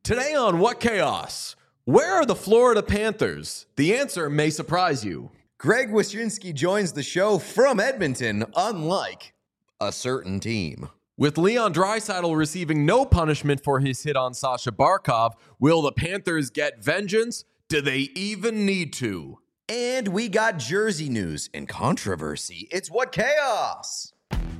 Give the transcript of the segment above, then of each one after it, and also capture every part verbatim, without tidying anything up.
Today on What Chaos? Where are the Florida Panthers? The answer may surprise you. Greg Wyshynski joins the show from Edmonton, unlike a certain team. With Leon Draisaitl receiving no punishment for his hit on Sasha Barkov, will the Panthers get vengeance? Do they even need to? And we got jersey news and controversy. It's What Chaos?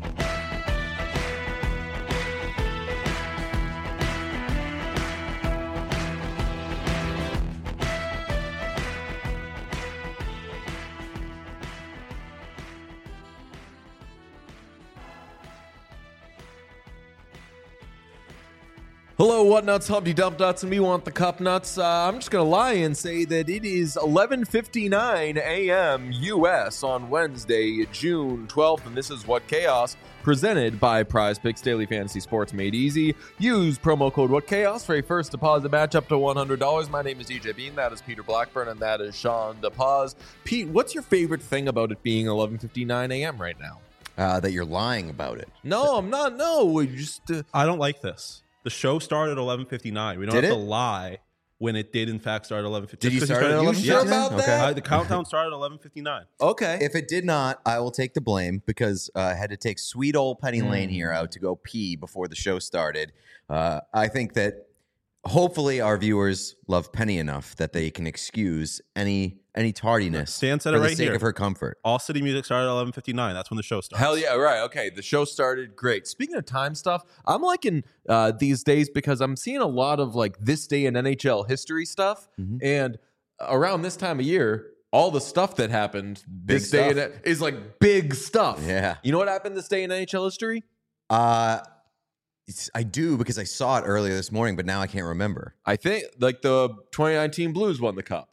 Hello, what nuts, Humpty Dump Nuts, and we want the cup nuts. Uh, I'm just going to lie and say that it is eleven fifty-nine a.m. U S on Wednesday, June twelfth, and this is What Chaos, presented by Prize Picks Daily Fantasy Sports Made Easy. Use promo code What Chaos for a first deposit match up to one hundred dollars. My name is D J Bean, that is Peter Blackburn, and that is Sean DePaz. Pete, what's your favorite thing about it being eleven fifty-nine a.m. right now? Uh, that you're lying about it. No, I'm not. No, we just... Uh, I don't like this. The show started at eleven fifty-nine. We don't Did have it? to lie when it did, in fact, start at eleven fifty-nine. Did you Just 'cause start at started eleven sure fifty-nine? about that? Uh, the countdown started at eleven fifty-nine. okay. If it did not, I will take the blame because uh, I had to take sweet old Penny Lane here out to go pee before the show started. Uh, I think that hopefully our viewers love Penny enough that they can excuse any any tardiness Stan said for it the right sake here. of her comfort. All City Music started at eleven fifty-nine. That's when the show starts. Hell yeah, right. Okay, the show started. Great. Speaking of time stuff, I'm liking uh, these days because I'm seeing a lot of like this day in N H L history stuff. Mhm. And around this time of year, all the stuff that happened Big this day stuff. in, is like big stuff. Yeah. You know what happened this day in N H L history? Uh, it's, I do because I saw it earlier this morning, but now I can't remember. I think like the twenty nineteen Blues won the cup.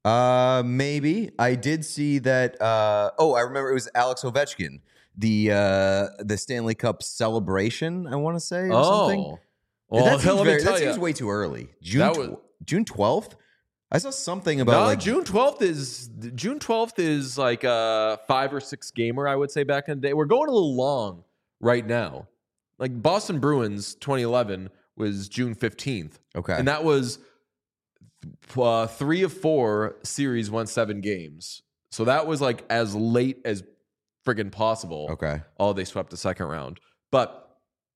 Uh, maybe I did see that. Uh, oh, I remember it was Alex Ovechkin, the uh, the Stanley Cup celebration. I want to say or something. Oh. Well, that hell, seems, let very, me tell that you. seems way too early. June That tw- was- June twelfth. I saw something about No, like June twelfth is June twelfth is like a five or six gamer, I would say, back in the day. We're going a little long right now. Like Boston Bruins twenty eleven was June fifteenth. Okay. And that was uh, three of four series won seven games. So that was like as late as friggin' possible. Okay. Oh, they swept the second round. But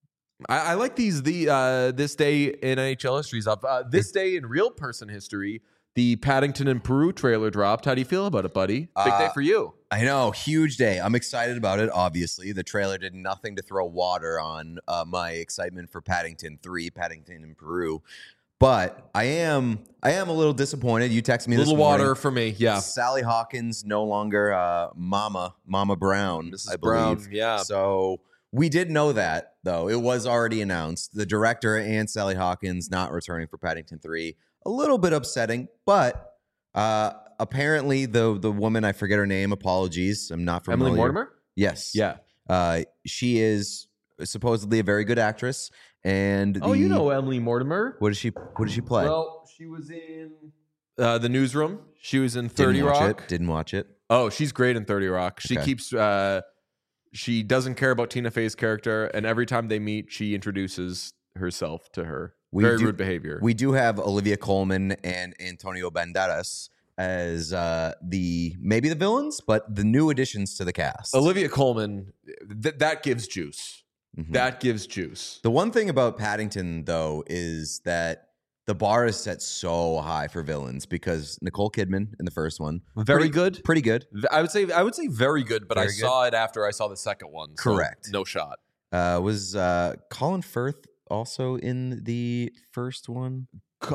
I, I like these the uh, this day in N H L history stuff. Uh, this day in real person history, the Paddington and Peru trailer dropped. How do you feel about it, buddy? Big Uh, day for you. I know, huge day. I'm excited about it. Obviously, the trailer did nothing to throw water on uh, my excitement for Paddington three, Paddington in Peru. But I am, I am a little disappointed. You texted me A this little morning. water for me. Yeah. Sally Hawkins no longer uh, Mama, Mama Brown, Missus I believe. Brown, yeah. So we did know that, though. It was already announced. The director and Sally Hawkins not returning for Paddington three. A little bit upsetting, but uh, apparently the the woman, I forget her name, apologies. I'm not familiar. Emily Mortimer? Yes. Yeah. Uh, she is supposedly a very good actress. And Oh, the- you know Emily Mortimer. What did she What did she play? Well, she was in uh, The Newsroom. She was in thirty Didn't watch Rock. it. Didn't watch it. Oh, she's great in thirty Rock. She Okay. keeps uh she doesn't care about Tina Fey's character, and every time they meet, she introduces herself to her. We Very do- rude behavior. We do have Olivia Colman and Antonio Banderas as uh, the maybe the villains, but the new additions to the cast. Olivia Colman, th- that gives juice. Mhm. That gives juice. The one thing about Paddington, though, is that the bar is set so high for villains because Nicole Kidman in the first one, Very pretty, good. pretty good. V- I would say I would say very good, but I Very good. saw it after I saw the second one. so Correct. No shot. Uh, was uh, Colin Firth also in the first one?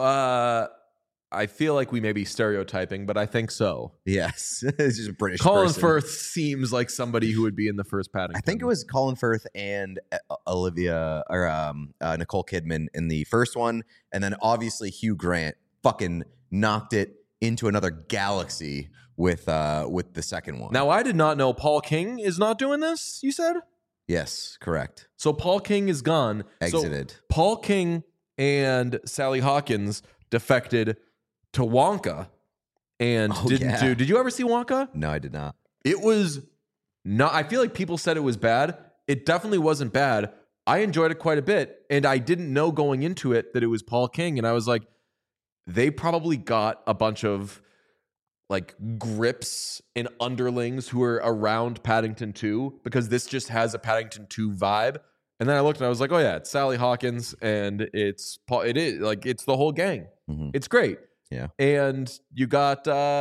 Uh, I feel like we may be stereotyping, but I think so. Yes, it's just a British. Colin person. Firth seems like somebody who would be in the first Paddington. I think it was Colin Firth and uh, Olivia or um, uh, Nicole Kidman in the first one, and then obviously Hugh Grant fucking knocked it into another galaxy with uh, with the second one. Now, I did not know Paul King is not doing this, you said? yes, correct. So Paul King is gone. So Exited. Paul King and Sally Hawkins defected to Wonka and Oh, didn't yeah. do. Did you ever see Wonka? No, I did not. It was not. I feel like people said it was bad. It definitely wasn't bad, I enjoyed it quite a bit, and I didn't know going into it that it was Paul King, and I was like, they probably got a bunch of like grips and underlings who are around Paddington two, because this just has a Paddington two vibe. And then I looked and I was like, oh yeah, it's Sally Hawkins and it's Paul. It is like it's the whole gang. Mhm. It's great. Yeah. And you got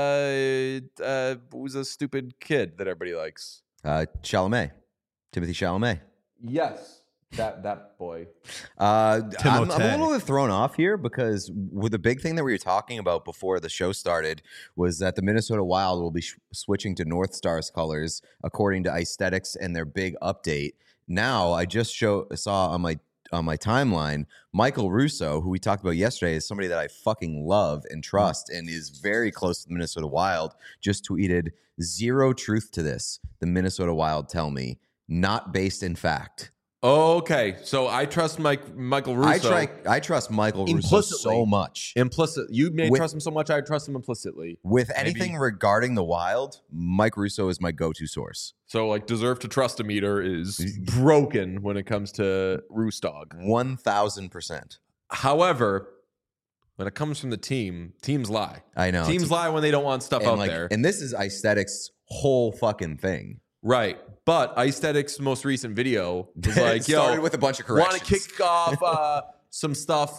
uh, uh, who's a stupid kid that everybody likes? Uh, Chalamet, Timothy Chalamet. Yes, that that boy. Uh, I'm, I'm a Timothée. little bit thrown off here because with the big thing that we were talking about before the show started was that the Minnesota Wild will be sh- switching to North Stars colors according to Aesthetics and their big update. Now, I just show saw on my on my timeline, Michael Russo, who we talked about yesterday, is somebody that I fucking love and trust and is very close to the Minnesota Wild, just tweeted, zero truth to this. The Minnesota Wild tell me, not based in fact. Okay, so I trust Mike Michael Russo. I try. I trust Michael Russo Implicitly. so much. implicit. You may With- trust him so much. I trust him implicitly. With Maybe. anything regarding the Wild, Mike Russo is my go-to source. So like, deserve to trust a meter is broken when it comes to Roostog. One thousand percent. However, when it comes from the team, teams lie. I know. Teams lie when they don't want stuff and out like, there. and this is Aesthetics' whole fucking thing. Right. But Aesthetics' most recent video was It like, yo, started with a bunch of want to corrections. kick off uh, some stuff.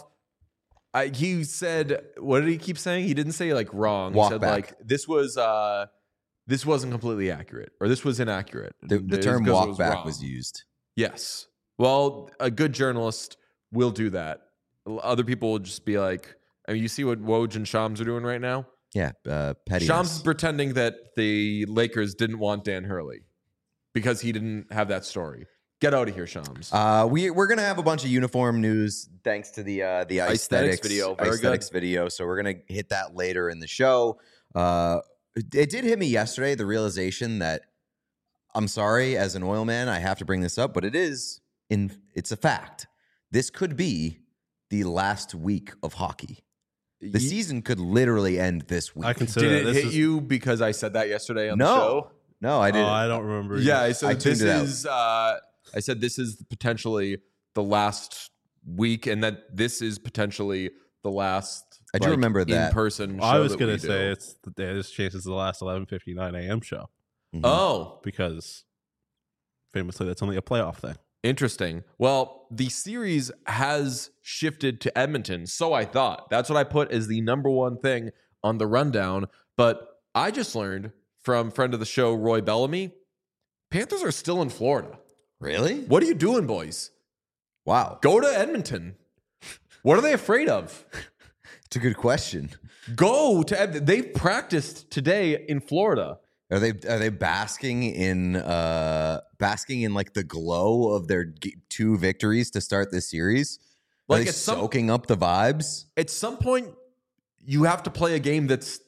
I, he said, what did he keep saying? He didn't say like wrong. Walk he said back. like this was uh, this wasn't completely accurate, or this was inaccurate. The, the It's term because it walk was back wrong. was used. Yes. Well, a good journalist will do that. Other people will just be like, I mean, you see what Woj and Shams are doing right now? Yeah, uh, petty. Shams is pretending that the Lakers didn't want Dan Hurley because he didn't have that story. Get out of here, Shams. Uh, we we're gonna have a bunch of uniform news thanks to the uh, the Aesthetics aesthetics, video. Very aesthetics video. So we're gonna hit that later in the show. Uh, it, it did hit me yesterday the realization that I'm sorry as an oil man I have to bring this up, but it is in it's a fact. This could be the last week of hockey. The Ye- season could literally end this week. I consider Did it this hit is, you because I said that yesterday on no, the show? no, I Oh, didn't. I don't remember. Yeah, I I said tuned this it out. is. Uh, I said this is potentially the last week, and that this is potentially the last. I do remember that. in person. I was gonna say it's the day this chances the last eleven fifty-nine a.m. show Mhm. Oh, because famously that's only a playoff thing. interesting. Well, the series has shifted to Edmonton, so I thought. That's what I put as the number one thing on the rundown. But I just learned from friend of the show, Roy Bellamy, Panthers are still in Florida. Really? What are you doing, boys? Wow, Go to Edmonton. What are they afraid of? it's a good question. Go to Ed- they've practiced today in Florida. Are they are they basking in uh basking in like the glow of their g- two victories to start this series? Are Like they at some- soaking up the vibes? At some point, you have to play a game that's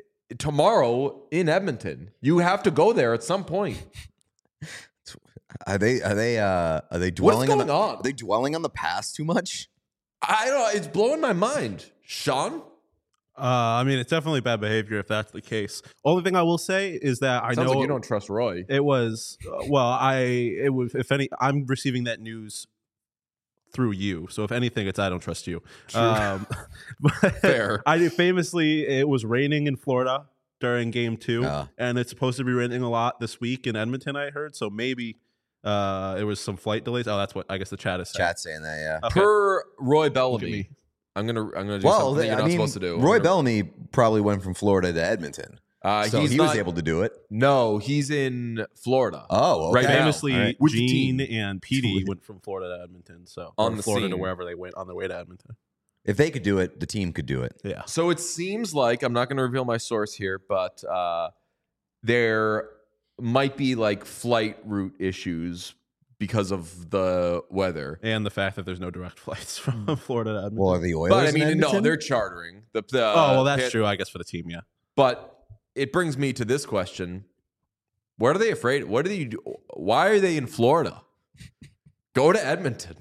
tomorrow in Edmonton. You have to go there at some point. Are they are they uh are they What's dwelling going on, the, on? Are they dwelling on the past too much? I don't know. It's blowing my mind. Sean? Uh, I mean, it's definitely bad behavior if that's the case. Only thing I will say is that I Sounds know like you don't trust Roy. it was uh, well. I it was if any. I'm receiving that news through you. So if anything, it's I don't trust you. Um, but Fair. I did famously. It was raining in Florida during Game Two, Uh. and it's supposed to be raining a lot this week in Edmonton. I heard so maybe uh, it was some flight delays. Oh, that's what I guess the chat is saying. Chat saying that, yeah. Okay. Per Roy Look at Bellamy, me. I'm gonna I'm gonna do Well, something they- you're I not mean, supposed to do. I'm Roy gonna- Bellamy probably went from Florida to Edmonton, uh, so he's he not, was able to do it. No, he's in Florida. Oh, okay. Right now. Famously, All right. With the Gene team. and Petey went from Florida to Edmonton. So On or the Florida to scene. wherever they went on their way to Edmonton. If they could do it, the team could do it. Yeah. So it seems like I'm not going to reveal my source here, but uh, there might be like flight route issues because of the weather. And the fact that there's no direct flights from Florida to Edmonton. Well, are the Oilers? But I in mean, no, Edmonton? they're chartering. The, the, oh, well, that's Pan- true, I guess, for the team, yeah. But it brings me to this question: what are they afraid? What do they do? Why are they in Florida? Go to Edmonton.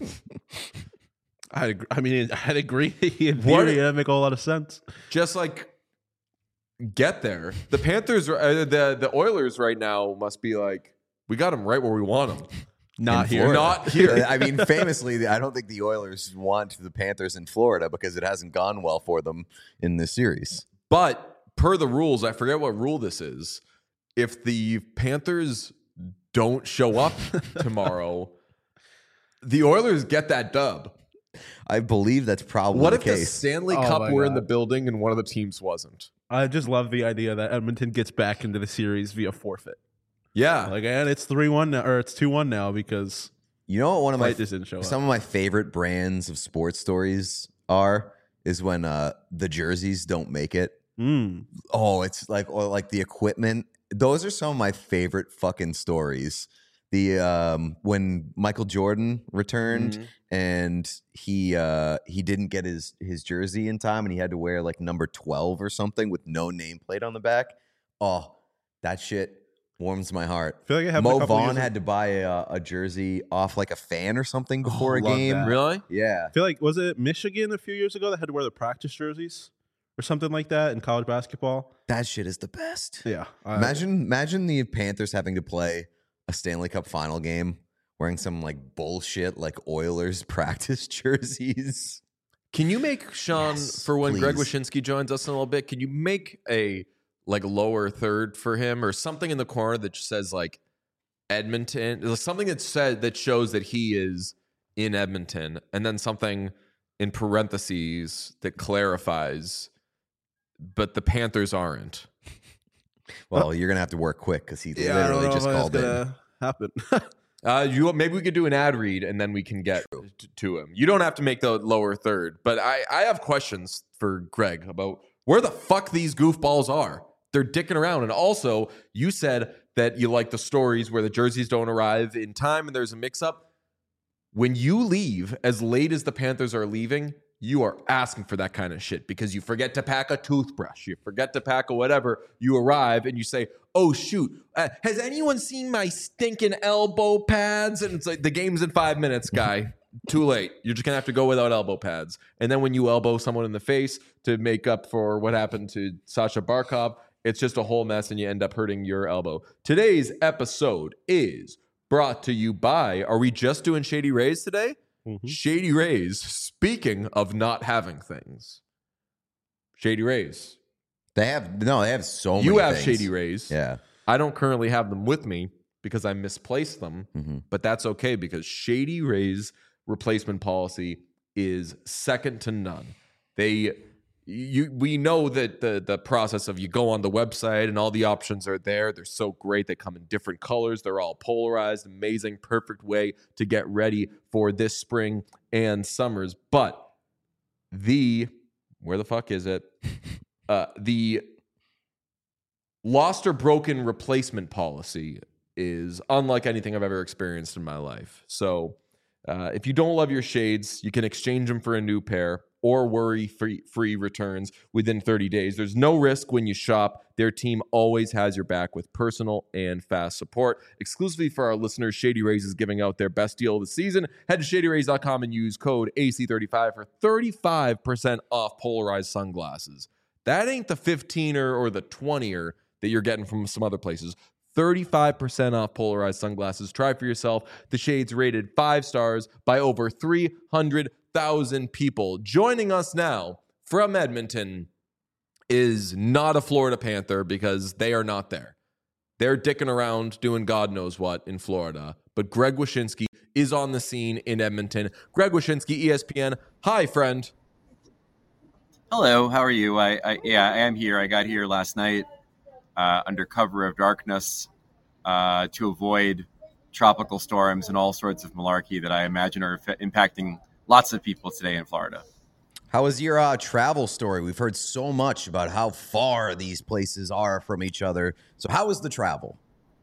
I I mean, I'd agree. In What- theory, that'd make a whole lot of sense. Just like get there. The Panthers, uh, the the Oilers, right now must be like, we got them right where we want them. Not in here. Florida. Not here. I mean, famously, I don't think the Oilers want the Panthers in Florida because it hasn't gone well for them in this series. But per the rules, I forget what rule this is. If the Panthers don't show up tomorrow, the Oilers get that dub. I believe that's probably What the if the case. Stanley Oh Cup my were in God. the building and one of the teams wasn't? I just love the idea that Edmonton gets back into the series via forfeit. Yeah. Like, and it's three one now, or it's two one now because You know what one of my Flight just didn't show some up. of my favorite brands of sports stories are is when uh, the jerseys don't make it. Mm. Oh, it's like or like the equipment. Those are some of my favorite fucking stories. The um when Michael Jordan returned Mhm. and he uh he didn't get his his jersey in time and he had to wear like number twelve or something with no nameplate on the back. Oh, that shit warms my heart. I feel like it happened a Mo couple Vaughn years had to buy a, a jersey off like a fan or something before a love game. that. Really? Yeah. I feel like was it Michigan a few years ago that had to wear the practice jerseys or something like that in college basketball? That shit is the best. Yeah, I- Imagine imagine the Panthers having to play a Stanley Cup final game wearing some like bullshit like Oilers practice jerseys. Can you make, Sean, Yes, for when Greg please. Wyshynski joins us in a little bit, can you make a like lower third for him or something in the corner that just says like Edmonton, something that said that shows that he is in Edmonton, and then something in parentheses that clarifies, but the Panthers aren't. Well, you're gonna have to work quick because he yeah, I don't literally know just if that's called in. gonna happen. Uh, you maybe we could do an ad read and then we can get t- to him. You don't have to make the lower third, but I I have questions for Greg about where the fuck these goofballs are. They're dicking around, and also you said that you like the stories where the jerseys don't arrive in time and there's a mix-up. When you leave as late as the Panthers are leaving, you are asking for that kind of shit because you forget to pack a toothbrush, you forget to pack a whatever. You arrive and you say, "Oh shoot, uh, has anyone seen my stinking elbow pads?" And it's like the game's in five minutes, guy. Too late. You're just gonna have to go without elbow pads. And then when you elbow someone in the face to make up for what happened to Sasha Barkov, it's just a whole mess, and you end up hurting your elbow. Today's episode is brought to you by. Are we just doing Shady Rays today? Mhm. Shady Rays. Speaking of not having things, Shady Rays. They have no, they have so many. You have things. Shady Rays. Yeah. I don't currently have them with me because I misplaced them, Mhm. but that's okay because Shady Rays replacement policy is second to none. They you we know that the the process of you go on the website and all the options are there. They're so great. They come in different colors. They're all polarized. Amazing, perfect way to get ready for this spring and summers. But the where the fuck is it? Uh, the lost or broken replacement policy is unlike anything I've ever experienced in my life. So uh, if you don't love your shades, you can exchange them for a new pair or worry free free returns within thirty days. There's no risk when you shop. Their team always has your back with personal and fast support. Exclusively for our listeners, Shady Rays is giving out their best deal of the season. Head to shady rays dot com and use code A C thirty-five for thirty-five percent off polarized sunglasses. That ain't the fifteen-er or the twenty-er that you're getting from some other places. thirty-five percent off polarized sunglasses. Try for yourself. The shades rated five stars by over three hundred thousand people. Joining us now from Edmonton is not a Florida Panther because they are not there. They're dicking around doing God knows what in Florida. But Greg Wyshynski is on the scene in Edmonton. Greg Wyshynski, E S P N. Hi, friend. Hello, how are you? I, I yeah, I am here. I got here last night uh, under cover of darkness uh, to avoid tropical storms and all sorts of malarkey that I imagine are f- impacting lots of people today in Florida. How was your uh, travel story? We've heard so much about how far these places are from each other. So how was the travel?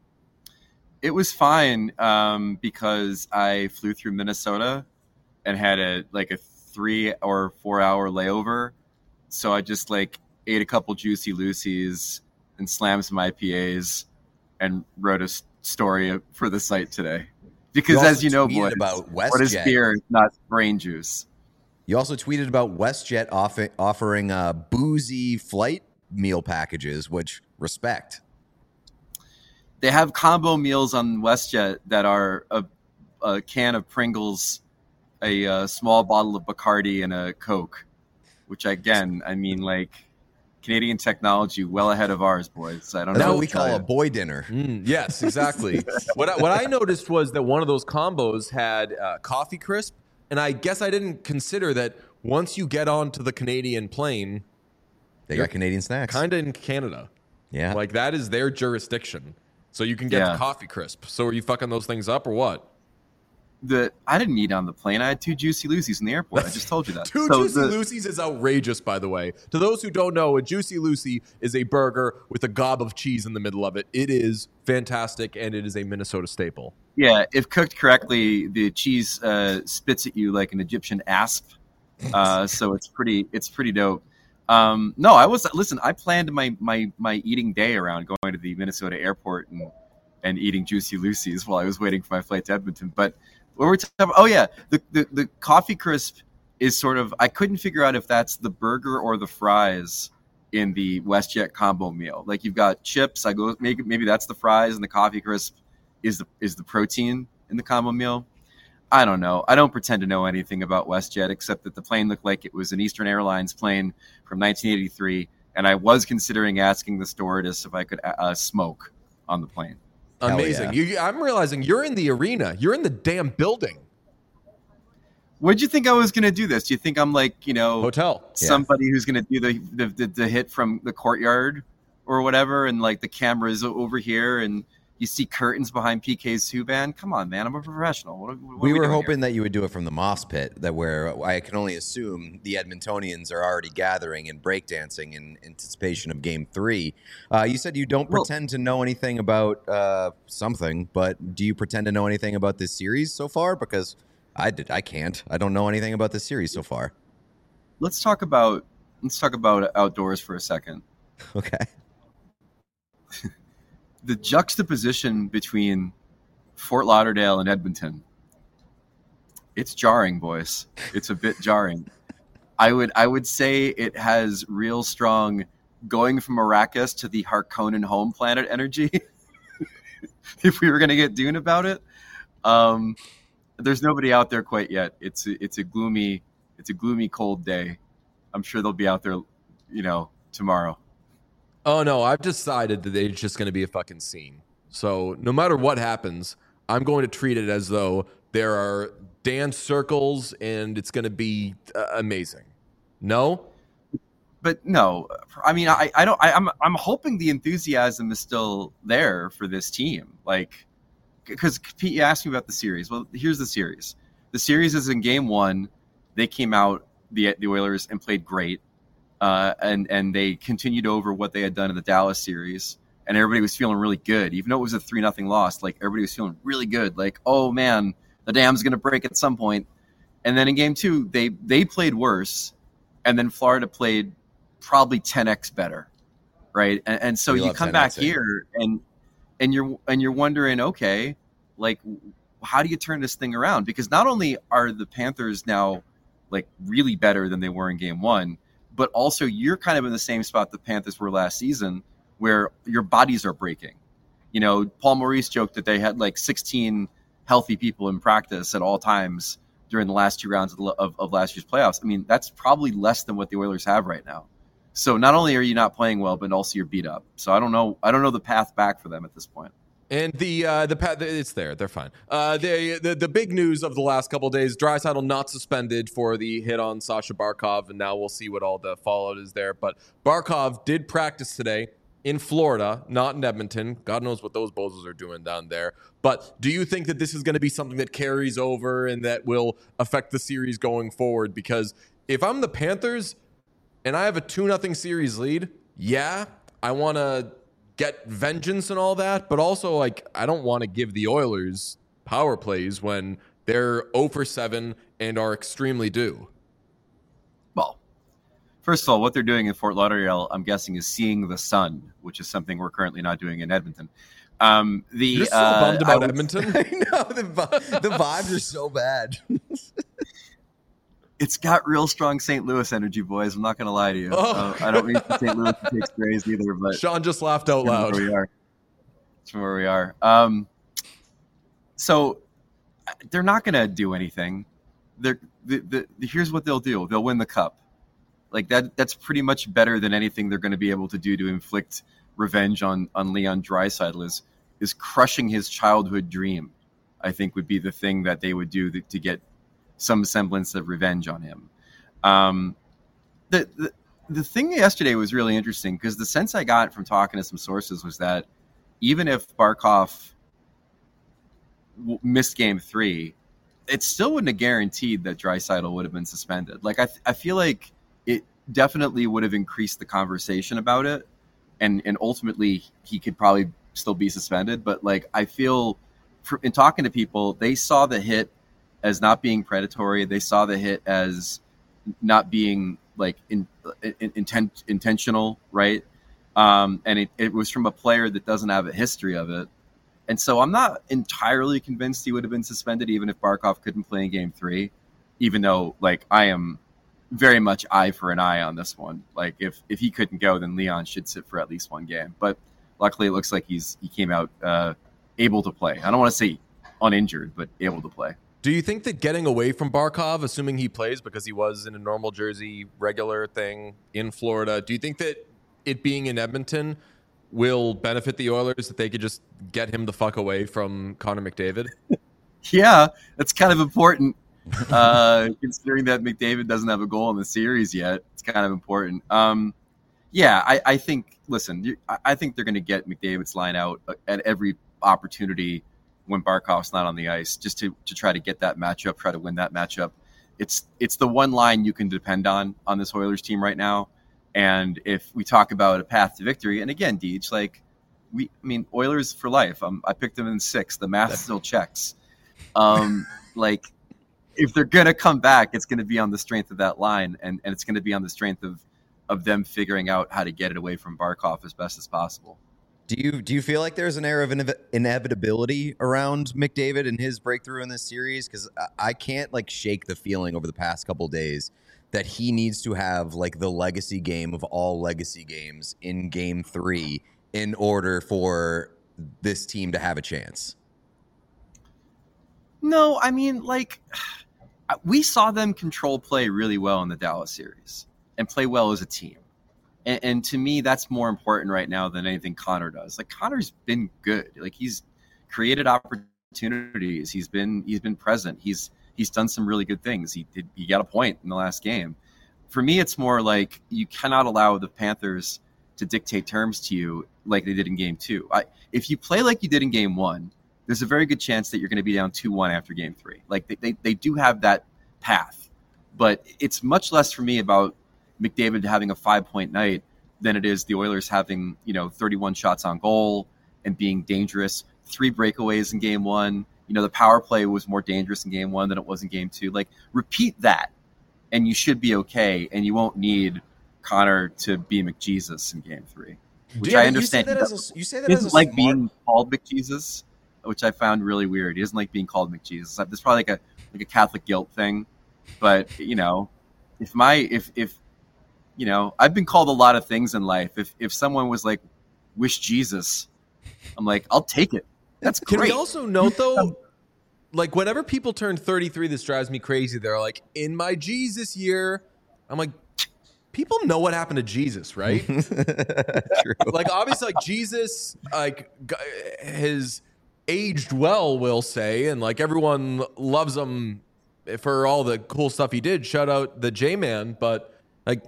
It was fine um, because I flew through Minnesota and had a like a three or four hour layover. So I just like ate a couple Juicy Lucy's and slammed some I P As and wrote a s- story for the site today. Because You as also you know, tweeted boys, about what is WestJet. beer if not brain juice? You also tweeted about WestJet off- offering uh, boozy flight meal packages, which respect. They have combo meals on WestJet that are a a can of Pringles, a uh, small bottle of Bacardi, and a Coke. Which again, I mean, like Canadian technology, well ahead of ours, boys. I don't That's know what we call a boy dinner. Mm, yes, exactly. what I, what I noticed was that one of those combos had uh, coffee crisp, and I guess I didn't consider that once you get onto the Canadian plane, They got Canadian snacks. kind of in Canada. Yeah. Like that is their jurisdiction. So you can get Yeah. the coffee crisp. So are you fucking those things up or what? The I didn't eat on the plane. I had two Juicy Lucy's in the airport. I just told you that. Two So Juicy the- Lucy's is outrageous, by the way. To those who don't know, a Juicy Lucy is a burger with a gob of cheese in the middle of it. It is fantastic, and it is a Minnesota staple. Yeah, if cooked correctly, the cheese uh, spits at you like an Egyptian asp. Uh, so it's pretty, it's pretty dope. Um, no, I was listen. I planned my my my eating day around going to the Minnesota airport and and eating Juicy Lucy's while I was waiting for my flight to Edmonton. But what we're talking about, oh yeah, the, the the coffee crisp is sort of. I couldn't figure out if that's the burger or the fries in the WestJet combo meal. Like you've got chips. I go maybe maybe that's the fries, and the coffee crisp is the is the protein in the combo meal. I don't know. I don't pretend to know anything about WestJet except that the plane looked like it was an Eastern Airlines plane from nineteen eighty-three, and I was considering asking the stewardess if I could uh, smoke on the plane. Hell Amazing. yeah. You, I'm realizing you're in the arena. You're in the damn building. What'd you think I was going to do this? Do you think I'm like, you know, Hotel. somebody who's going to do the, the, the, the hit from the courtyard or whatever, and like the camera's over here and you see curtains behind P K's Subban? Come on, man. I'm a professional. What, what we are we were doing hoping here? that you would do it from the moss pit, that where I can only assume the Edmontonians are already gathering and breakdancing in anticipation of Game Three. Uh, you said you don't Well- pretend to know anything about uh, something, but do you pretend to know anything about this series so far? Because I did, I can't. I don't know anything about this series so far. Let's talk about let's talk about outdoors for a second. Okay. The juxtaposition between Fort Lauderdale and Edmonton, it's jarring, boys. It's a bit jarring. I would I would say it has real strong going from Arrakis to the Harkonnen home planet energy. If we were going to get Dune about it, um, there's nobody out there quite yet. It's a, it's a gloomy it's a gloomy cold day. I'm sure they'll be out there, you know, tomorrow. Oh, no. I've decided that it's just going to be a fucking scene. So no matter what happens, I'm going to treat it as though there are dance circles and it's going to be uh, amazing. No? But no, I mean, I, I don't, I, I'm, I'm hoping the enthusiasm is still there for this team. Like, because Pete, you asked me about the series. Well, here's the series. The series is in game one. They came out, the the Oilers, and played great. Uh, and, and they continued over what they had done in the Dallas series. And everybody was feeling really good. Even though it was a three nothing loss, like, everybody was feeling really good. Like, oh, man, the dam's going to break at some point. And then in game two, they, they played worse. And then Florida played probably ten x better, right? And, and so We you love come back ten Xing. here and and you're and you're wondering, okay, like how do you turn this thing around? Because not only are the Panthers now like really better than they were in game one, but also you're kind of in the same spot the Panthers were last season, where your bodies are breaking. You know, Paul Maurice joked that they had like sixteen healthy people in practice at all times during the last two rounds of, the, of, of last year's playoffs. I mean, that's probably less than what the Oilers have right now. So not only are you not playing well, but also you're beat up. So I don't know. I don't know the path back for them at this point. And the uh, the pa- it's there. They're fine. Uh, the, the the big news of the last couple of days: Draisaitl not suspended for the hit on Sasha Barkov, and now we'll see what all the fallout is there. But Barkov did practice today in Florida, not in Edmonton. God knows what those bozos are doing down there. But do you think that this is going to be something that carries over and that will affect the series going forward? Because if I'm the Panthers and I have a two nothing series lead, yeah, I want to get vengeance and all that, but also like I don't want to give the Oilers power plays when they're zero for seven and are extremely due. Well, first of all, what they're doing in Fort Lauderdale, I'm guessing, is seeing the sun, which is something we're currently not doing in Edmonton. Um, the You're so uh, bummed I about would- Edmonton. I know the vi- the vibes are so bad. It's got real strong Saint Louis energy, boys. I'm not going to lie to you. Oh. Uh, I don't mean for Saint Louis to take sprays either, but Sean just laughed out That's loud. where we are. That's where we are. Um, so they're not going to do anything. They're the, the, here's what they'll do. They'll win the cup. Like that. That's pretty much better than anything they're going to be able to do to inflict revenge on on Leon Draisaitl. Is is crushing his childhood dream. I think would be the thing that they would do to, to get some semblance of revenge on him. Um, the, the the thing yesterday was really interesting because the sense I got from talking to some sources was that even if Barkov w- missed game three, it still wouldn't have guaranteed that Draisaitl would have been suspended. Like I, th- I feel like it definitely would have increased the conversation about it, and and ultimately he could probably still be suspended. But like I feel, for, in talking to people, they saw the hit as not being predatory. They saw the hit as not being like in, in, intent intentional, right? Um, and it, it was from a player that doesn't have a history of it. And so I'm not entirely convinced he would have been suspended even if Barkov couldn't play in game three, even though like I am very much eye for an eye on this one. Like if, if he couldn't go, then Leon should sit for at least one game. But luckily it looks like he's he came out uh, able to play. I don't want to say uninjured, but able to play. Do you think that getting away from Barkov, assuming he plays because he was in a normal jersey, regular thing in Florida, do you think that it being in Edmonton will benefit the Oilers, that they could just get him the fuck away from Connor McDavid? Yeah, that's kind of important. Uh, considering that McDavid doesn't have a goal in the series yet, it's kind of important. Um, yeah, I, I think, listen, you, I think they're going to get McDavid's line out at every opportunity when Barkov's not on the ice, just to, to try to get that matchup, try to win that matchup. It's it's the one line you can depend on on this Oilers team right now. And if we talk about a path to victory, and again, Deej, like we, I mean, Oilers for life. Um, I picked them in six. The math still checks. Um, like if they're gonna come back, it's gonna be on the strength of that line, and, and it's gonna be on the strength of of them figuring out how to get it away from Barkov as best as possible. Do you do you feel like there's an air of inev- inevitability around McDavid and his breakthrough in this series? Because I, I can't like shake the feeling over the past couple days that he needs to have like the legacy game of all legacy games in game three in order for this team to have a chance. No, I mean, like we saw them control play really well in the Dallas series and play well as a team. And, and to me, that's more important right now than anything Connor does. Like Connor's been good. Like he's created opportunities. He's been he's been present. He's he's done some really good things. He did he got a point in the last game. For me, it's more like you cannot allow the Panthers to dictate terms to you like they did in game two. I, if you play like you did in game one, there's a very good chance that you're going to be down two one after game three. Like they, they, they do have that path. But it's much less for me about McDavid having a five-point night than it is the Oilers having, you know, thirty-one shots on goal and being dangerous. Three breakaways in game one. You know, the power play was more dangerous in game one than it was in game two. Like, repeat that, and you should be okay, and you won't need Connor to be McJesus in game three. Which Yeah, I you understand. say that He as doesn't, a, you say that he as a doesn't like smart- being called McJesus, which I found really weird. He doesn't like being called McJesus. There's probably like a like a Catholic guilt thing. But, you know, if my if if you know, I've been called a lot of things in life. If if someone was like, wish Jesus, I'm like, I'll take it. That's Can great. we also note, though, like, whenever people turn thirty-three, this drives me crazy. They're like, in my Jesus year. I'm like, people know what happened to Jesus, right? True. Like, obviously, like, Jesus, like, g- has aged well, we'll say, and, like, everyone loves him for all the cool stuff he did. Shout out the J-Man, but, like,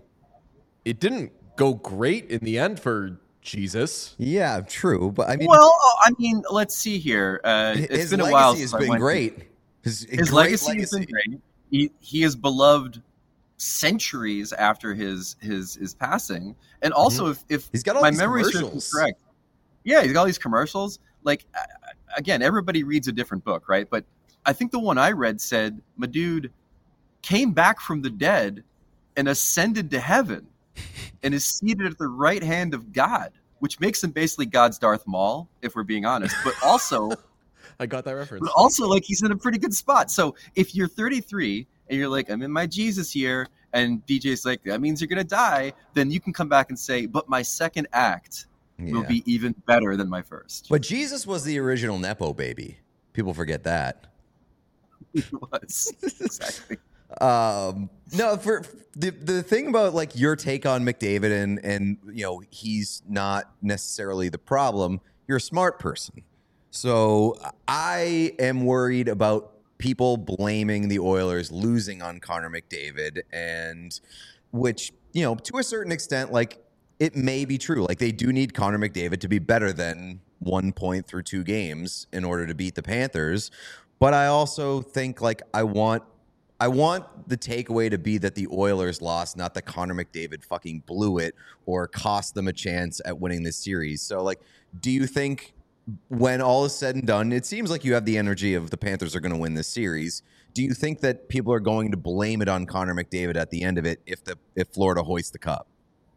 it didn't go great in the end for Jesus. Yeah, true. But I mean, well, I mean, let's see here. Uh, it's his been a legacy while. has since I been went to- great. His, His great legacy, has been great. He he is beloved centuries after his his his passing, and also if if He's got all my these memory serves me commercials. correct, yeah, he's got all these commercials. Like uh, again, everybody reads a different book, right? But I think the one I read said, "My dude came back from the dead and ascended to heaven, and is seated at the right hand of God," which makes him basically God's Darth Maul, if we're being honest. But also. I got that reference. But also, like, he's in a pretty good spot. So if you're thirty-three and you're like, I'm in my Jesus year, and D J's like, that means you're going to die, then you can come back and say, but my second act will Yeah. be even better than my first. But Jesus was the original Nepo baby. People forget that. He was. Exactly. Um, no, for the the thing about like your take on McDavid and and you know he's not necessarily the problem. You're a smart person, so I am worried about people blaming the Oilers losing on Connor McDavid, and which you know to a certain extent, like it may be true. Like they do need Connor McDavid to be better than one point through two games in order to beat the Panthers, but I also think like I want. I want the takeaway to be that the Oilers lost, not that Connor McDavid fucking blew it or cost them a chance at winning this series. So, like, do you think when all is said and done, it seems like you have the energy of the Panthers are going to win this series. Do you think that people are going to blame it on Connor McDavid at the end of it if the if Florida hoists the cup?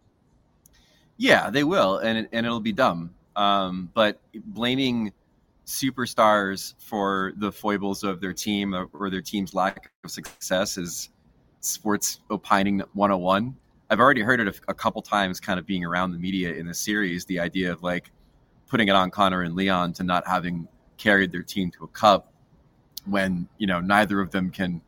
Yeah, they will, and it, and it'll be dumb. Um, but blaming superstars for the foibles of their team or, or their team's lack of success is sports opining one oh one. I've already heard it a, a couple times kind of being around the media in the series, the idea of like putting it on Connor and Leon to not having carried their team to a cup when, you know, neither of them can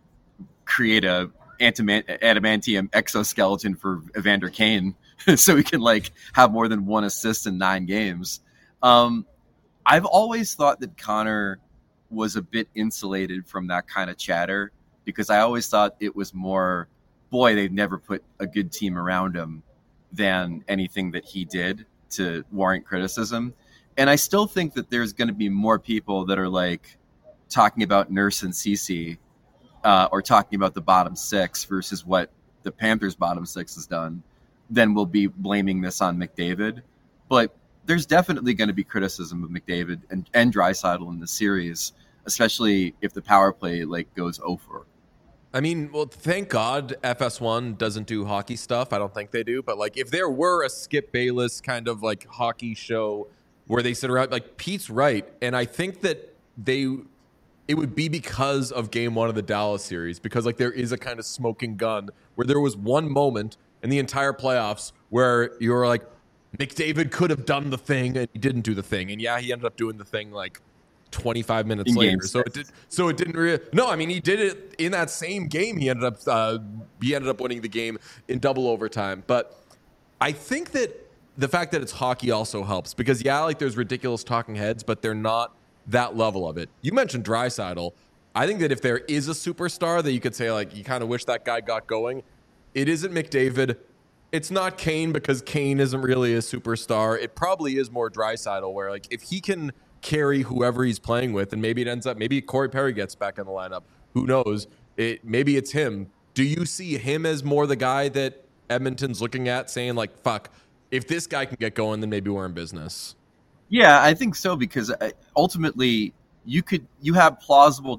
create a adamantium exoskeleton for Evander Kane so he can like have more than one assist in nine games. Um, I've always thought that Connor was a bit insulated from that kind of chatter because I always thought it was more, boy, they've never put a good team around him than anything that he did to warrant criticism. And I still think that there's going to be more people that are like talking about Nurse and Ceci uh, or talking about the bottom six versus what the Panthers bottom six has done than will be blaming this on McDavid. But there's definitely going to be criticism of McDavid and, and Draisaitl in the series, especially if the power play like goes over. I mean, well, thank God F S one doesn't do hockey stuff. I don't think they do. But like, if there were a Skip Bayless kind of like hockey show where they sit around, like Pete's right, and I think that they, it would be because of Game One of the Dallas series, because like there is a kind of smoking gun where there was one moment in the entire playoffs where you were like, McDavid could have done the thing and he didn't do the thing. And yeah, he ended up doing the thing like twenty-five minutes in later. So it did, so it didn't really, no, I mean, he did it in that same game. He ended up, uh, he ended up winning the game in double overtime. But I think that the fact that it's hockey also helps because yeah, like there's ridiculous talking heads, but they're not that level of it. You mentioned Draisaitl. I think that if there is a superstar that you could say like, you kind of wish that guy got going, it isn't McDavid. It's not Kane because Kane isn't really a superstar. It probably is more Draisaitl where like if he can carry whoever he's playing with and maybe it ends up, maybe Corey Perry gets back in the lineup. Who knows? It maybe it's him. Do you see him as more the guy that Edmonton's looking at saying like, fuck, if this guy can get going, then maybe we're in business? Yeah, I think so because ultimately you could, you have plausible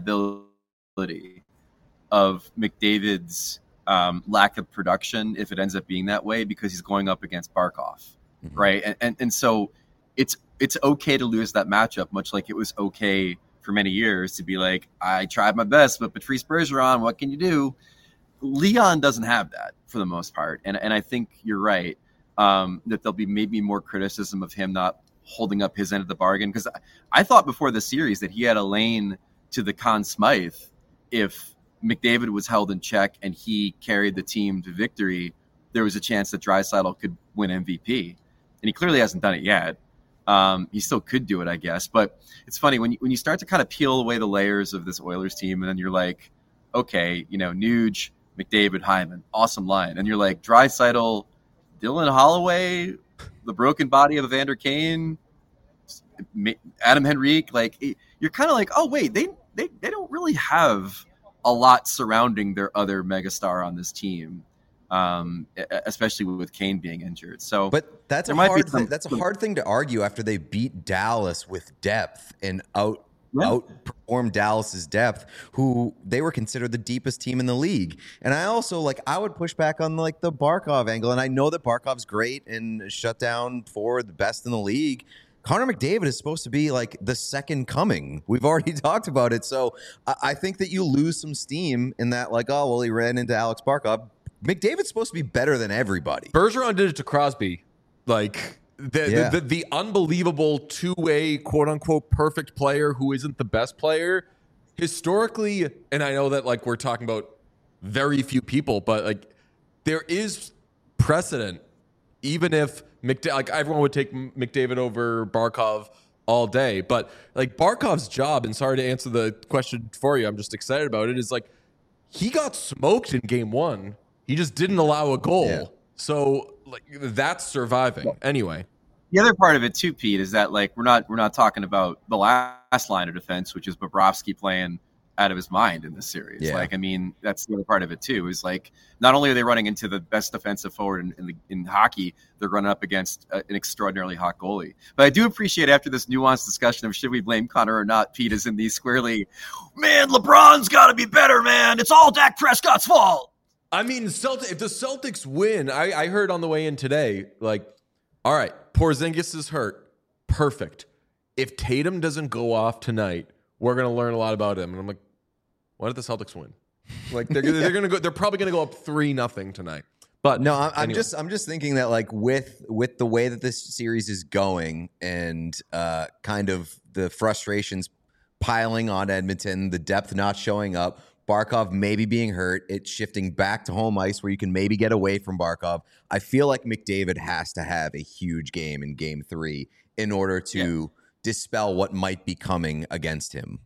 deniability of McDavid's Um, lack of production if it ends up being that way because he's going up against Barkov, mm-hmm. right? And, and and so it's it's okay to lose that matchup, much like it was okay for many years to be like, I tried my best, but Patrice Bergeron, what can you do? Leon doesn't have that for the most part, and and I think you're right um, that there'll be maybe more criticism of him not holding up his end of the bargain because I, I thought before the series that he had a lane to the Conn Smythe if McDavid was held in check and he carried the team to victory, there was a chance that Draisaitl could win M V P. And he clearly hasn't done it yet. Um, he still could do it, I guess. But it's funny, when you, when you start to kind of peel away the layers of this Oilers team, and then you're like, okay, you know, Nuge, McDavid, Hyman, awesome line. And you're like, Draisaitl, Dylan Holloway, the broken body of Evander Kane, Adam Henrique, like, you're kind of like, oh, wait, they, they, they don't really have a lot surrounding their other megastar on this team, um, especially with Kane being injured. So, but that's a hard some, that's a hard thing to argue after they beat Dallas with depth and out yeah. outperformed Dallas's depth, who they were considered the deepest team in the league. And I also like I would push back on like the Barkov angle, and I know that Barkov's great and shut down for the best in the league. Connor McDavid is supposed to be like the second coming. We've already talked about it. So I think that you lose some steam in that, like, oh, well, he ran into Alex Barkov. McDavid's supposed to be better than everybody. Bergeron did it to Crosby. Like, the, yeah. the, the, the unbelievable two-way, quote-unquote, perfect player who isn't the best player. historically, and I know that like we're talking about very few people, but like there is precedent. Even if McDa- like everyone would take McDavid over Barkov all day, but like Barkov's job, and sorry to answer the question for you, I'm just excited about it, is like he got smoked in game one. He just didn't allow a goal. Yeah. So like that's surviving. Anyway. The other part of it too, Pete, is that like we're not we're not talking about the last line of defense, which is Bobrovsky playing out of his mind in this series. Yeah. Like, I mean, that's the other part of it too. Is like not only are they running into the best defensive forward in in, the, in hockey, they're running up against a, an extraordinarily hot goalie. But I do appreciate after this nuanced discussion of should we blame Connor or not, Pete is in these squarely, man, LeBron's got to be better, man. It's all Dak Prescott's fault. I mean, Celtic, if the Celtics win, I, I heard on the way in today, like, all right, Porzingis is hurt. Perfect. If Tatum doesn't go off tonight, we're going to learn a lot about him. And I'm like, why did the Celtics win? Like they're they're going to go. They're probably going to go up three nothing tonight. But no, I'm, I'm anyway. just I'm just thinking that like with with the way that this series is going and uh, kind of the frustrations piling on Edmonton, the depth not showing up, Barkov maybe being hurt, it's shifting back to home ice where you can maybe get away from Barkov. I feel like McDavid has to have a huge game in game three in order to yeah. dispel what might be coming against him.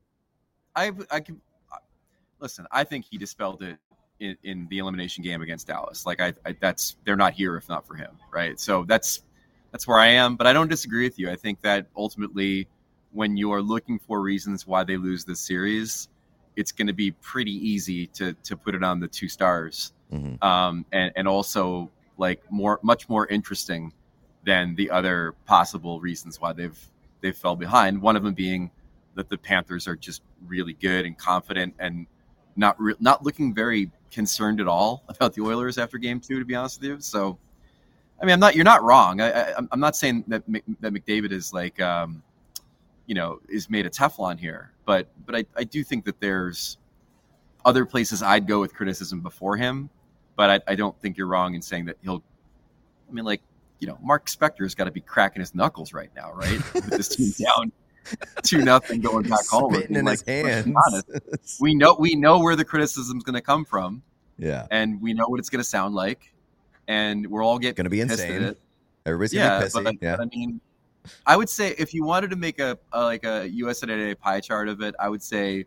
I I can listen. I think he dispelled it in, in the elimination game against Dallas. Like I, I, that's they're not here if not for him, right? So that's that's where I am. But I don't disagree with you. I think that ultimately, when you are looking for reasons why they lose this series, it's going to be pretty easy to to put it on the two stars, mm-hmm. um, and and also like more much more interesting than the other possible reasons why they've they fell behind. One of them being that the Panthers are just really good and confident and not re- not looking very concerned at all about the Oilers after game two, to be honest with you. So, I mean, I'm not you're not wrong. I, I, I'm not saying that that McDavid is like. Um, you know, is made of Teflon here. But but I, I do think that there's other places I'd go with criticism before him. But I, I don't think you're wrong in saying that he'll – I mean, like, you know, Mark Spector's got to be cracking his knuckles right now, right? With this team down two nothing going back home. Spitting in like, his hands. Honest, we know we know where the criticism's going to come from. Yeah. And we know what it's going to sound like. And we're all getting going to be pissed insane. at it. Everybody's yeah, going to be pissy. But, yeah. But I mean – I would say if you wanted to make a, a like a U S A Today pie chart of it, I would say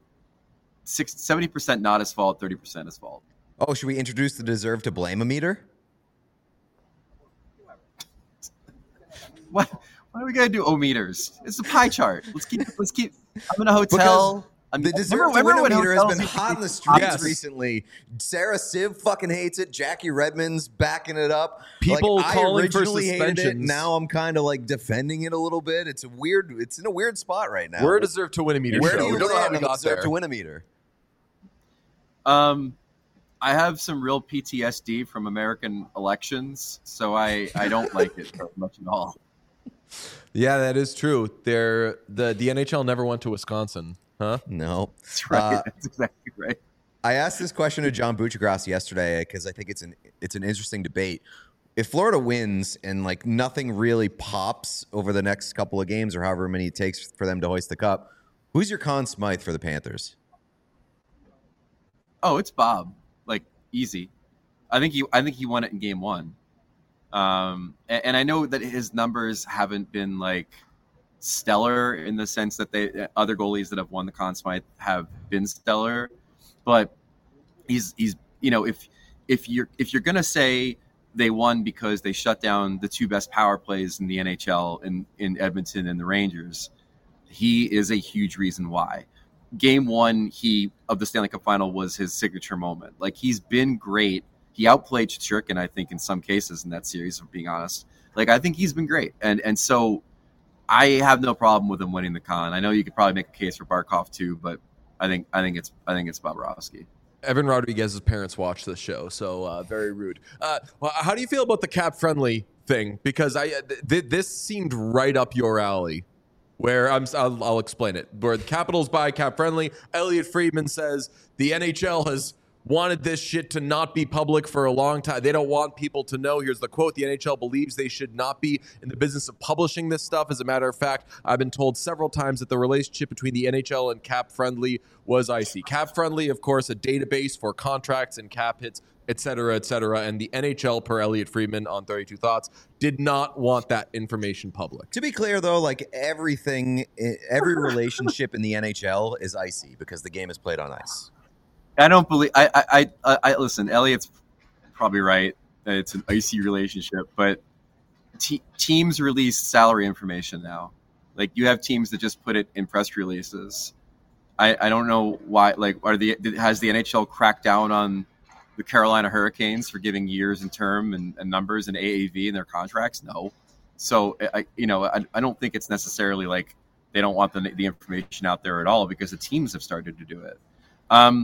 six, seventy percent not his fault, thirty percent his fault. Oh, should we introduce the deserve to blame meter? What? Why do we gotta do o-meters? It's a pie chart. Let's keep. Let's keep. I'm in a hotel. Because I'm, the deserve to win meter has been hot in the streets yes. recently. Sarah Siv fucking hates it. Jackie Redmond's backing it up. People like, calling I originally for hated suspensions. it. Now I'm kind of like defending it a little bit. It's a weird. It's in a weird spot right now. We're a deserve to win a meter Where show. do you we don't know how land we on the got deserve there. to win a meter? Um, I have some real P T S D from American elections, so I I don't like it very much at all. Yeah, that is true. They're, the the N H L never went to Wisconsin, huh? No, that's right. Uh, that's exactly right. I asked this question to John Buccigross yesterday because I think it's an it's an interesting debate. If Florida wins and like nothing really pops over the next couple of games or however many it takes for them to hoist the cup, who's your Conn Smythe for the Panthers? Oh, it's Bob. Like easy. I think he I think he won it in game one. Um, and, and I know that his numbers haven't been like stellar in the sense that they other goalies that have won the Conn Smythe have been stellar, but he's he's you know if if you're if you're gonna say they won because they shut down the two best power plays in the N H L in in Edmonton and the Rangers, he is a huge reason why. Game one he of the Stanley Cup final was his signature moment. Like he's been great. He outplayed Shesterkin, I think, in some cases in that series, if I'm being honest. Like, I think he's been great. And and so I have no problem with him winning the Con. I know you could probably make a case for Barkov too, but I think I think it's I think it's Bobrovsky. Evan Rodriguez's parents watch this show, so uh, very rude. Uh, well, how do you feel about the cap friendly thing? Because I th- this seemed right up your alley. Where I'm, I'll, I'll explain it. Where the Capitals buy cap friendly, Elliot Friedman says the N H L has wanted this shit to not be public for a long time. They don't want people to know. Here's the quote. The N H L believes they should not be in the business of publishing this stuff. As a matter of fact, I've been told several times that the relationship between the N H L and Cap Friendly was icy. Cap Friendly, of course, a database for contracts and cap hits, et cetera, et cetera. And the N H L, per Elliot Friedman on thirty-two Thoughts, did not want that information public. To be clear, though, like everything, every relationship in the N H L is icy because the game is played on ice. I don't believe. I, I, I, I listen. Elliot's probably right that it's an icy relationship, but te- teams release salary information now. Like you have teams that just put it in press releases. I, I don't know why. Like, are the has the N H L cracked down on the Carolina Hurricanes for giving years and term and, and numbers and A A V in their contracts? No. So I, you know, I, I don't think it's necessarily like they don't want the the information out there at all because the teams have started to do it. Um,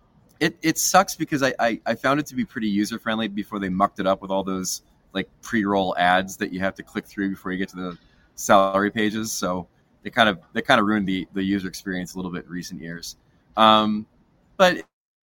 It it sucks because I, I, I found it to be pretty user friendly before they mucked it up with all those like pre-roll ads that you have to click through before you get to the salary pages. So they kind of they kind of ruined the, the user experience a little bit in recent years. Um, but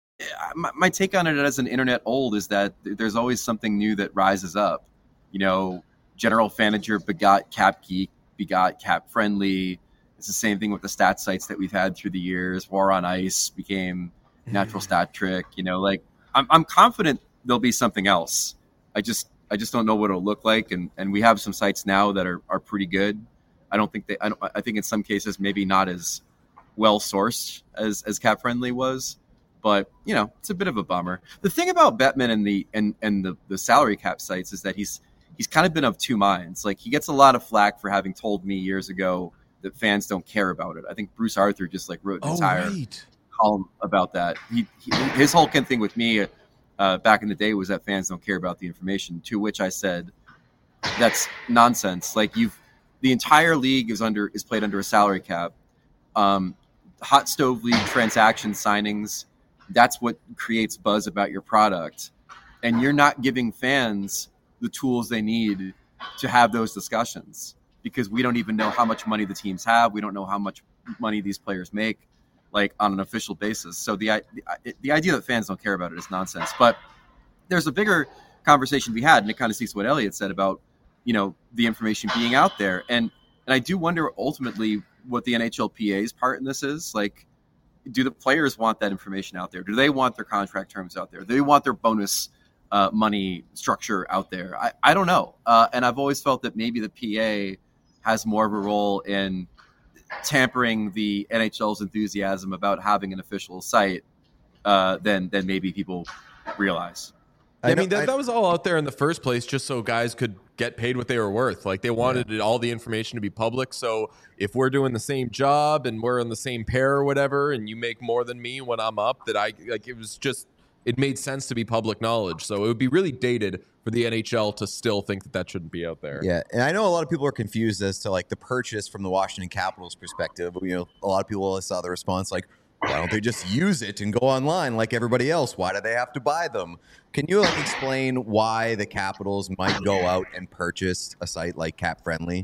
my, my take on it as an internet old is that there's always something new that rises up. You know, General Fanager begot Cap Geek, begot Cap Friendly. It's the same thing with the stat sites that we've had through the years. War on Ice became Natural Stat Trick, you know, like I'm I'm confident there'll be something else. I just I just don't know what it'll look like, and, and we have some sites now that are, are pretty good. I don't think they I don't I think in some cases maybe not as well sourced as as Cap Friendly was, but you know it's a bit of a bummer. The thing about Bettman and the and and the, the salary cap sites is that he's he's kind of been of two minds. Like he gets a lot of flack for having told me years ago that fans don't care about it. I think Bruce Arthur just like wrote an Oh, entire right. column about that. He, he his whole thing with me uh, back in the day was that fans don't care about the information. To which I said, that's nonsense. Like you've the entire league is under is played under a salary cap. Um, hot stove league transaction signings. That's what creates buzz about your product, and you're not giving fans the tools they need to have those discussions because we don't even know how much money the teams have. We don't know how much money these players make, like on an official basis. So the, the the idea that fans don't care about it is nonsense. But there's a bigger conversation to be had, and it kind of speaks to what Elliot said about, you know, the information being out there. And and I do wonder ultimately what the N H L P A's part in this is. Like, do the players want that information out there? Do they want their contract terms out there? Do they want their bonus uh, money structure out there? I, I don't know. Uh, and I've always felt that maybe the P A has more of a role in tampering the N H L's enthusiasm about having an official site uh, than than maybe people realize. Yeah, I, I mean, know- that, I- that was all out there in the first place just so guys could get paid what they were worth. Like, they wanted it, all the information to be public. So if we're doing the same job and we're in the same pair or whatever, and you make more than me when I'm up, that I, like, it was just, it made sense to be public knowledge. So it would be really dated for the N H L to still think that that shouldn't be out there. Yeah, and I know a lot of people are confused as to like the purchase from the Washington Capitals perspective. You know, a lot of people saw the response like, why don't they just use it and go online like everybody else? Why do they have to buy them? Can you like explain why the Capitals might go out and purchase a site like Cap Friendly?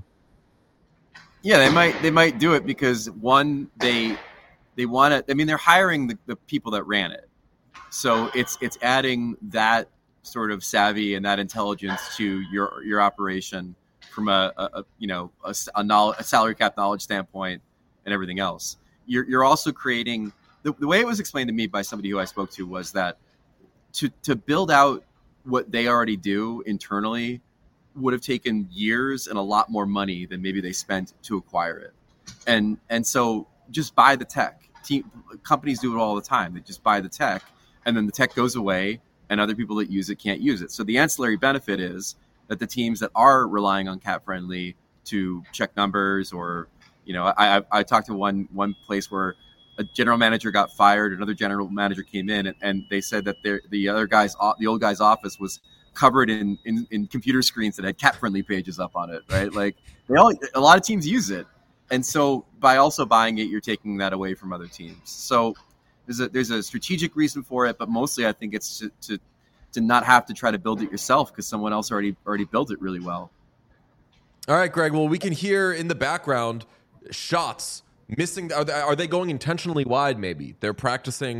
Yeah, they might they might do it because one, they they want to. I mean, they're hiring the, the people that ran it, so it's it's adding that sort of savvy and that intelligence to your your operation from a, a, a you know a, a, knowledge, a salary cap knowledge standpoint and everything else. You're you're also creating the, the way it was explained to me by somebody who I spoke to was that to to build out what they already do internally would have taken years and a lot more money than maybe they spent to acquire it. And and so just buy the tech. Team, companies do it all the time. They just buy the tech, and then the tech goes away, and other people that use it can't use it. So the ancillary benefit is that the teams that are relying on Cap Friendly to check numbers, or, you know, I I, I talked to one one place where a general manager got fired, another general manager came in, and, and they said that the other guy's the old guy's office was covered in, in, in computer screens that had Cap Friendly pages up on it, right? Like they all, a lot of teams use it. And so by also buying it, you're taking that away from other teams. So there's a, there's a strategic reason for it, but mostly I think it's to, to, to not have to try to build it yourself because someone else already, already built it really well. All right, Greg. Well, we can hear in the background shots missing. Are they, are they going intentionally wide? Maybe they're practicing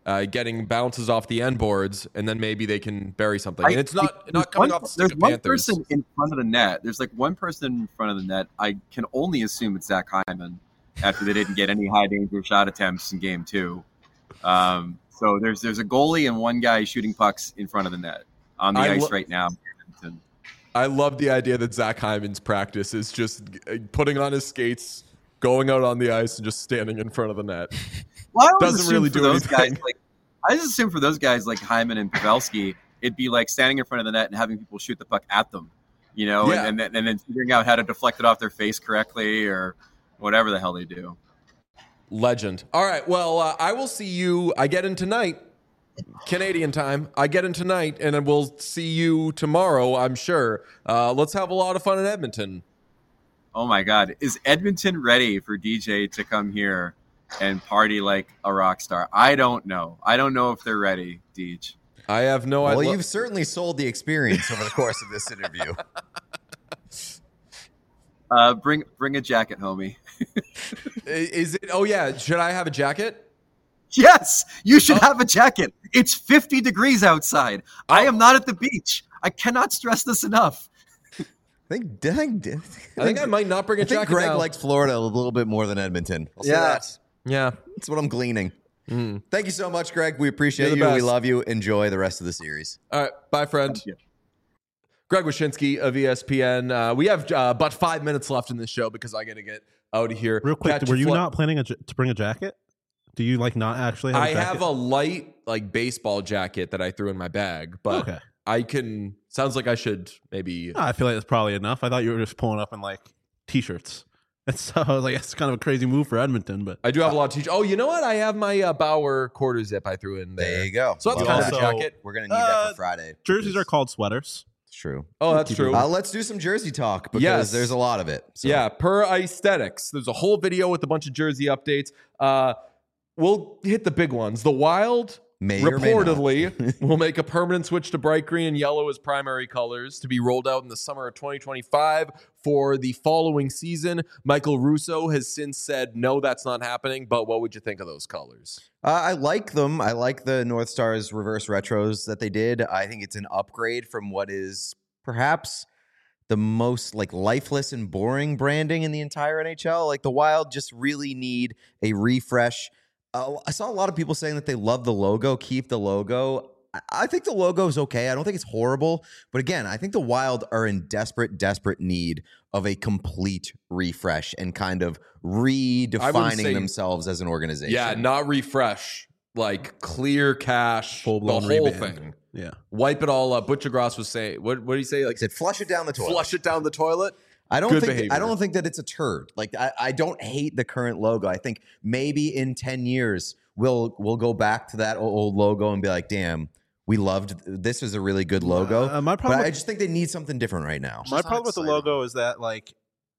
uh, getting bounces off the end boards, and then maybe they can bury something. I- and it's not I- not coming one, off the stick There's of one Panthers. person in front of the net. There's like one person in front of the net. I can only assume it's Zach Hyman after they didn't get any high danger shot attempts in game two. Um, so there's there's a goalie and one guy shooting pucks in front of the net on the I ice lo- right now. I love the idea that Zach Hyman's practice is just uh, putting on his skates, going out on the ice, and just standing in front of the net. Well, I always Doesn't assume really for do those anything. guys, like, I just assume for those guys like Hyman and Pavelski, it'd be like standing in front of the net and having people shoot the puck at them, you know, Yeah. and, and, then, and then figuring out how to deflect it off their face correctly or whatever the hell they do. Legend. All right. Well, uh, I will see you. I get in tonight, Canadian time. I get in tonight, and then we'll see you tomorrow, I'm sure. Uh, let's have a lot of fun in Edmonton. Oh my God. Is Edmonton ready for D J to come here and party like a rock star? I don't know. I don't know if they're ready, Deej. I have no Well, idea. you've certainly sold the experience over the course of this interview. Uh, bring bring a jacket, homie. Is it? Oh, yeah. Should I have a jacket? Yes, you should Oh. have a jacket. It's fifty degrees outside. I am not at the beach. I cannot stress this enough. I think, I think, I think I might not bring a I think jacket Greg now. likes Florida a little bit more than Edmonton. I'll say Yeah. that. Yeah. That's what I'm gleaning. Mm. Thank you so much, Greg. We appreciate You're you. the We best. love you. Enjoy the rest of the series. All right. Bye, friend. Thank you. Greg Wyshynski of E S P N. Uh, we have uh, about five minutes left in this show because I got to get out of here. Real quick, Catch were a you fli- not planning a, j- to bring a jacket? Do you like not actually have a I jacket? have a light like baseball jacket that I threw in my bag, but Okay. I can. Sounds like I should maybe. No, I feel like that's probably enough. I thought you were just pulling up in like t-shirts. And so I was like, it's kind of a crazy move for Edmonton, but I do have a lot of t-shirts. Oh, you know what? I have my uh, Bauer quarter zip I threw in there. There you go. So that's Love kind that. of a Also- jacket. We're going to need Uh, that for Friday. jerseys because are called sweaters. It's true. Oh, that's true. Uh, let's do some jersey talk because Yes. there's a lot of it. So. Yeah, per aesthetics. There's a whole video with a bunch of jersey updates. Uh, we'll hit the big ones. The Wild May or may not. reportedly will make a permanent switch to bright green and yellow as primary colors to be rolled out in the summer of twenty twenty-five for the following season. Michael Russo has since said, no, that's not happening. But what would you think of those colors? Uh, I like them. I like the North Stars reverse retros that they did. I think it's an upgrade from what is perhaps the most like lifeless and boring branding in the entire N H L. Like the Wild just really need a refresh. Uh, I saw a lot of people saying that they love the logo, keep the logo. I- I think the logo is okay. I don't think it's horrible. But again, I think the Wild are in desperate, desperate need of a complete refresh and kind of redefining say- themselves as an organization. Yeah, not refresh, like clear cash, Full-blown the whole reband. thing. Yeah. Wipe it all up. Butcher Gross was saying, what, what did he say? Like, Like I said, flush it down the toilet. flush it down the toilet? I don't Good think behavior. I don't think that it's a turd. Like I, I don't hate the current logo. I think maybe in ten years we'll we'll go back to that old logo and be like, damn, we loved this is a really good logo. Uh, my but problem I with- just think they need something different right now. My problem with the logo is that like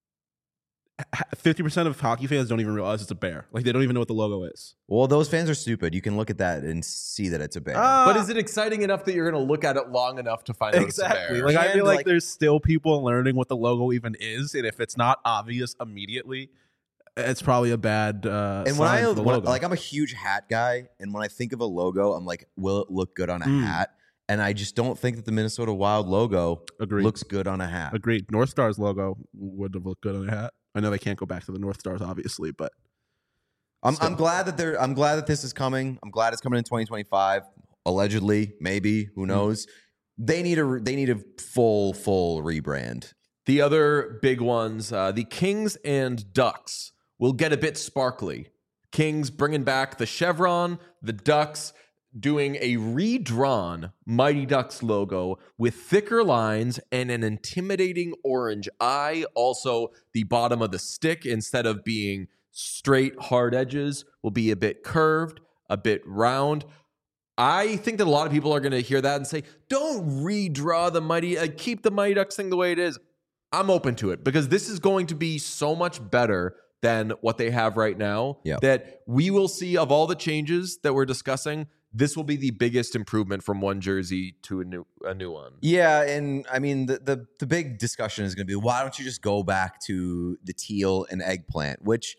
fifty percent of hockey fans don't even realize it's a bear. Like they don't even know what the logo is. Well, those fans are stupid. You can look at that and see that it's a bear. Ah, But is it exciting enough that you're going to look at it long enough to find out exactly. it's a bear? Like I And, feel like, like- there's still people learning what the logo even is, and if it's not obvious immediately, it's probably a bad uh, and when sign I for the when- logo. like I'm a huge hat guy, and when I think of a logo, I'm like, will it look good on a Mm. hat? And I just don't think that the Minnesota Wild logo Agreed. looks good on a hat. Agreed. North Stars logo would have looked good on a hat. I know they can't go back to the North Stars, obviously, but I'm, Still. I'm glad that they're. I'm glad that this is coming. I'm glad it's coming in twenty twenty-five. Allegedly, maybe. Who knows? They need a. They need a full, full rebrand. The other big ones, uh, the Kings and Ducks will get a bit sparkly. Kings bringing back the chevron, the Ducks doing a redrawn Mighty Ducks logo with thicker lines and an intimidating orange eye. Also, the bottom of the stick, instead of being straight, hard edges, will be a bit curved, a bit round. I think that a lot of people are going to hear that and say, don't redraw the Mighty, uh, keep the Mighty Ducks thing the way it is. I'm open to it because this is going to be so much better than what they have right now. Yep. That we will see, of all the changes that we're discussing, this will be the biggest improvement from one jersey to a new a new one. Yeah, and I mean the the, the big discussion is going to be why don't you just go back to the teal and eggplant, which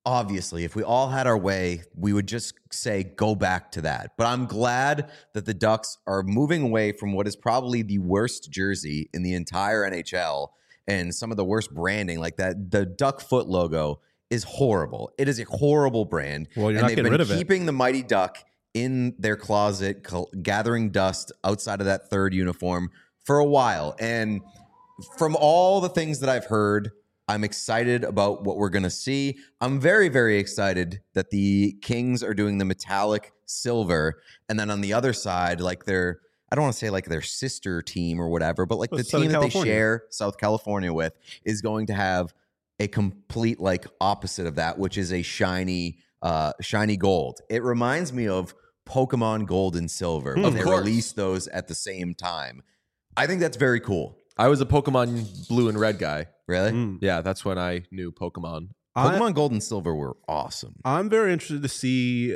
obviously, if we all had our way, we would just say go back to that. But I'm glad that the Ducks are moving away from what is probably the worst jersey in the entire N H L and some of the worst branding, like that. The Duck foot logo is horrible. It is a horrible brand. Well, you're and not they've getting been rid of it. keeping the Mighty Duck in their closet, col- gathering dust outside of that third uniform for a while. And from all the things that I've heard, I'm excited about what we're going to see. I'm very, very excited that the Kings are doing the metallic silver. And then on the other side, like their, I don't want to say like their sister team or whatever, but like Well, the Southern team that California. they share South California with is going to have a complete like opposite of that, which is a shiny, uh, shiny gold. It reminds me of Pokemon Gold and Silver when Of they course. released those at the same time. I think that's very cool. I was a Pokemon Blue and Red guy. Really? Mm. Yeah, that's when I knew Pokemon. I, Pokemon Gold and Silver were awesome. I'm very interested to see uh,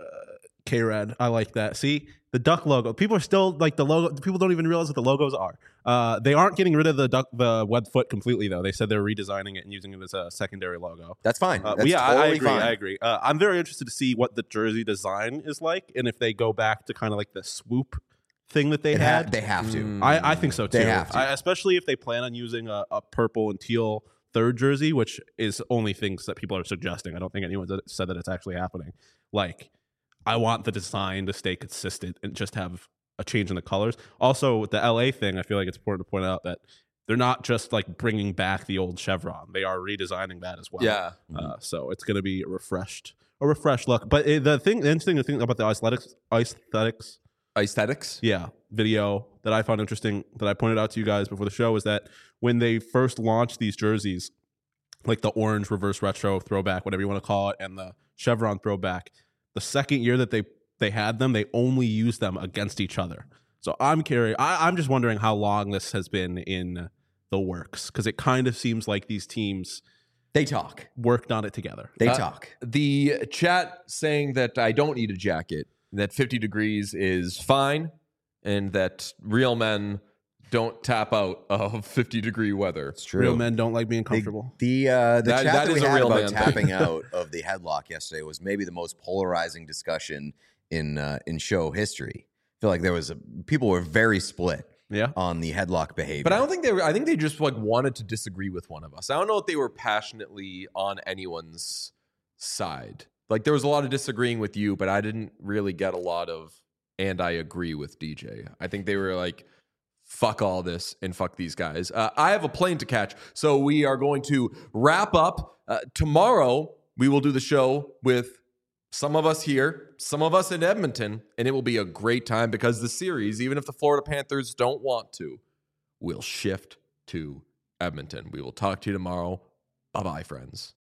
K-Red. I like that. See, the duck logo. People are still like the logo. People don't even realize what the logos are. Uh, they aren't getting rid of the duck, the web foot completely though. They said they're redesigning it and using it as a secondary logo. That's fine. Uh, That's but yeah, I- I totally agree. fine. I agree. Uh, I'm very interested to see what the jersey design is like, and if they go back to kind of like the swoop thing that they It ha- had. they have to. Mm. I, I think so too. They have to. I, especially if they plan on using a, a purple and teal third jersey, which is only things that people are suggesting. I don't think anyone said that it's actually happening. Like, I want the design to stay consistent and just have a change in the colors. Also, with the L A thing, I feel like it's important to point out that they're not just like bringing back the old chevron; they are redesigning that as well. Yeah. Uh, so it's going to be a refreshed, a refreshed look. But it, the thing, the interesting thing about the aesthetics, aesthetics Aesthetics. yeah, video that I found interesting that I pointed out to you guys before the show is that when they first launched these jerseys, like the orange reverse retro throwback, whatever you want to call it, and the chevron throwback, the second year that they they had them, they only used them against each other. So I'm curious. I, I'm just wondering how long this has been in the works, because it kind of seems like these teams They talk. worked on it together. They Uh, talk. The chat saying that I don't need a jacket, that fifty degrees is fine, and that real men don't tap out of fifty degree weather. It's true. Real men don't like being The comfortable. the, uh, the That- chat that that, we is a had real about man thing. tapping out of the headlock yesterday was maybe the most polarizing discussion in uh, in show history. I feel like there was a, people were very split Yeah. on the headlock behavior. But I don't think they were. I think they just like wanted to disagree with one of us. I don't know if they were passionately on anyone's side. Like there was a lot of disagreeing with you, but I didn't really get a lot of. And I agree with D J. I think they were like, fuck all this and fuck these guys. Uh, I have a plane to catch. So we are going to wrap up. Uh, tomorrow, we will do the show with some of us here, some of us in Edmonton, and it will be a great time because the series, even if the Florida Panthers don't want to, will shift to Edmonton. We will talk to you tomorrow. Bye-bye, friends.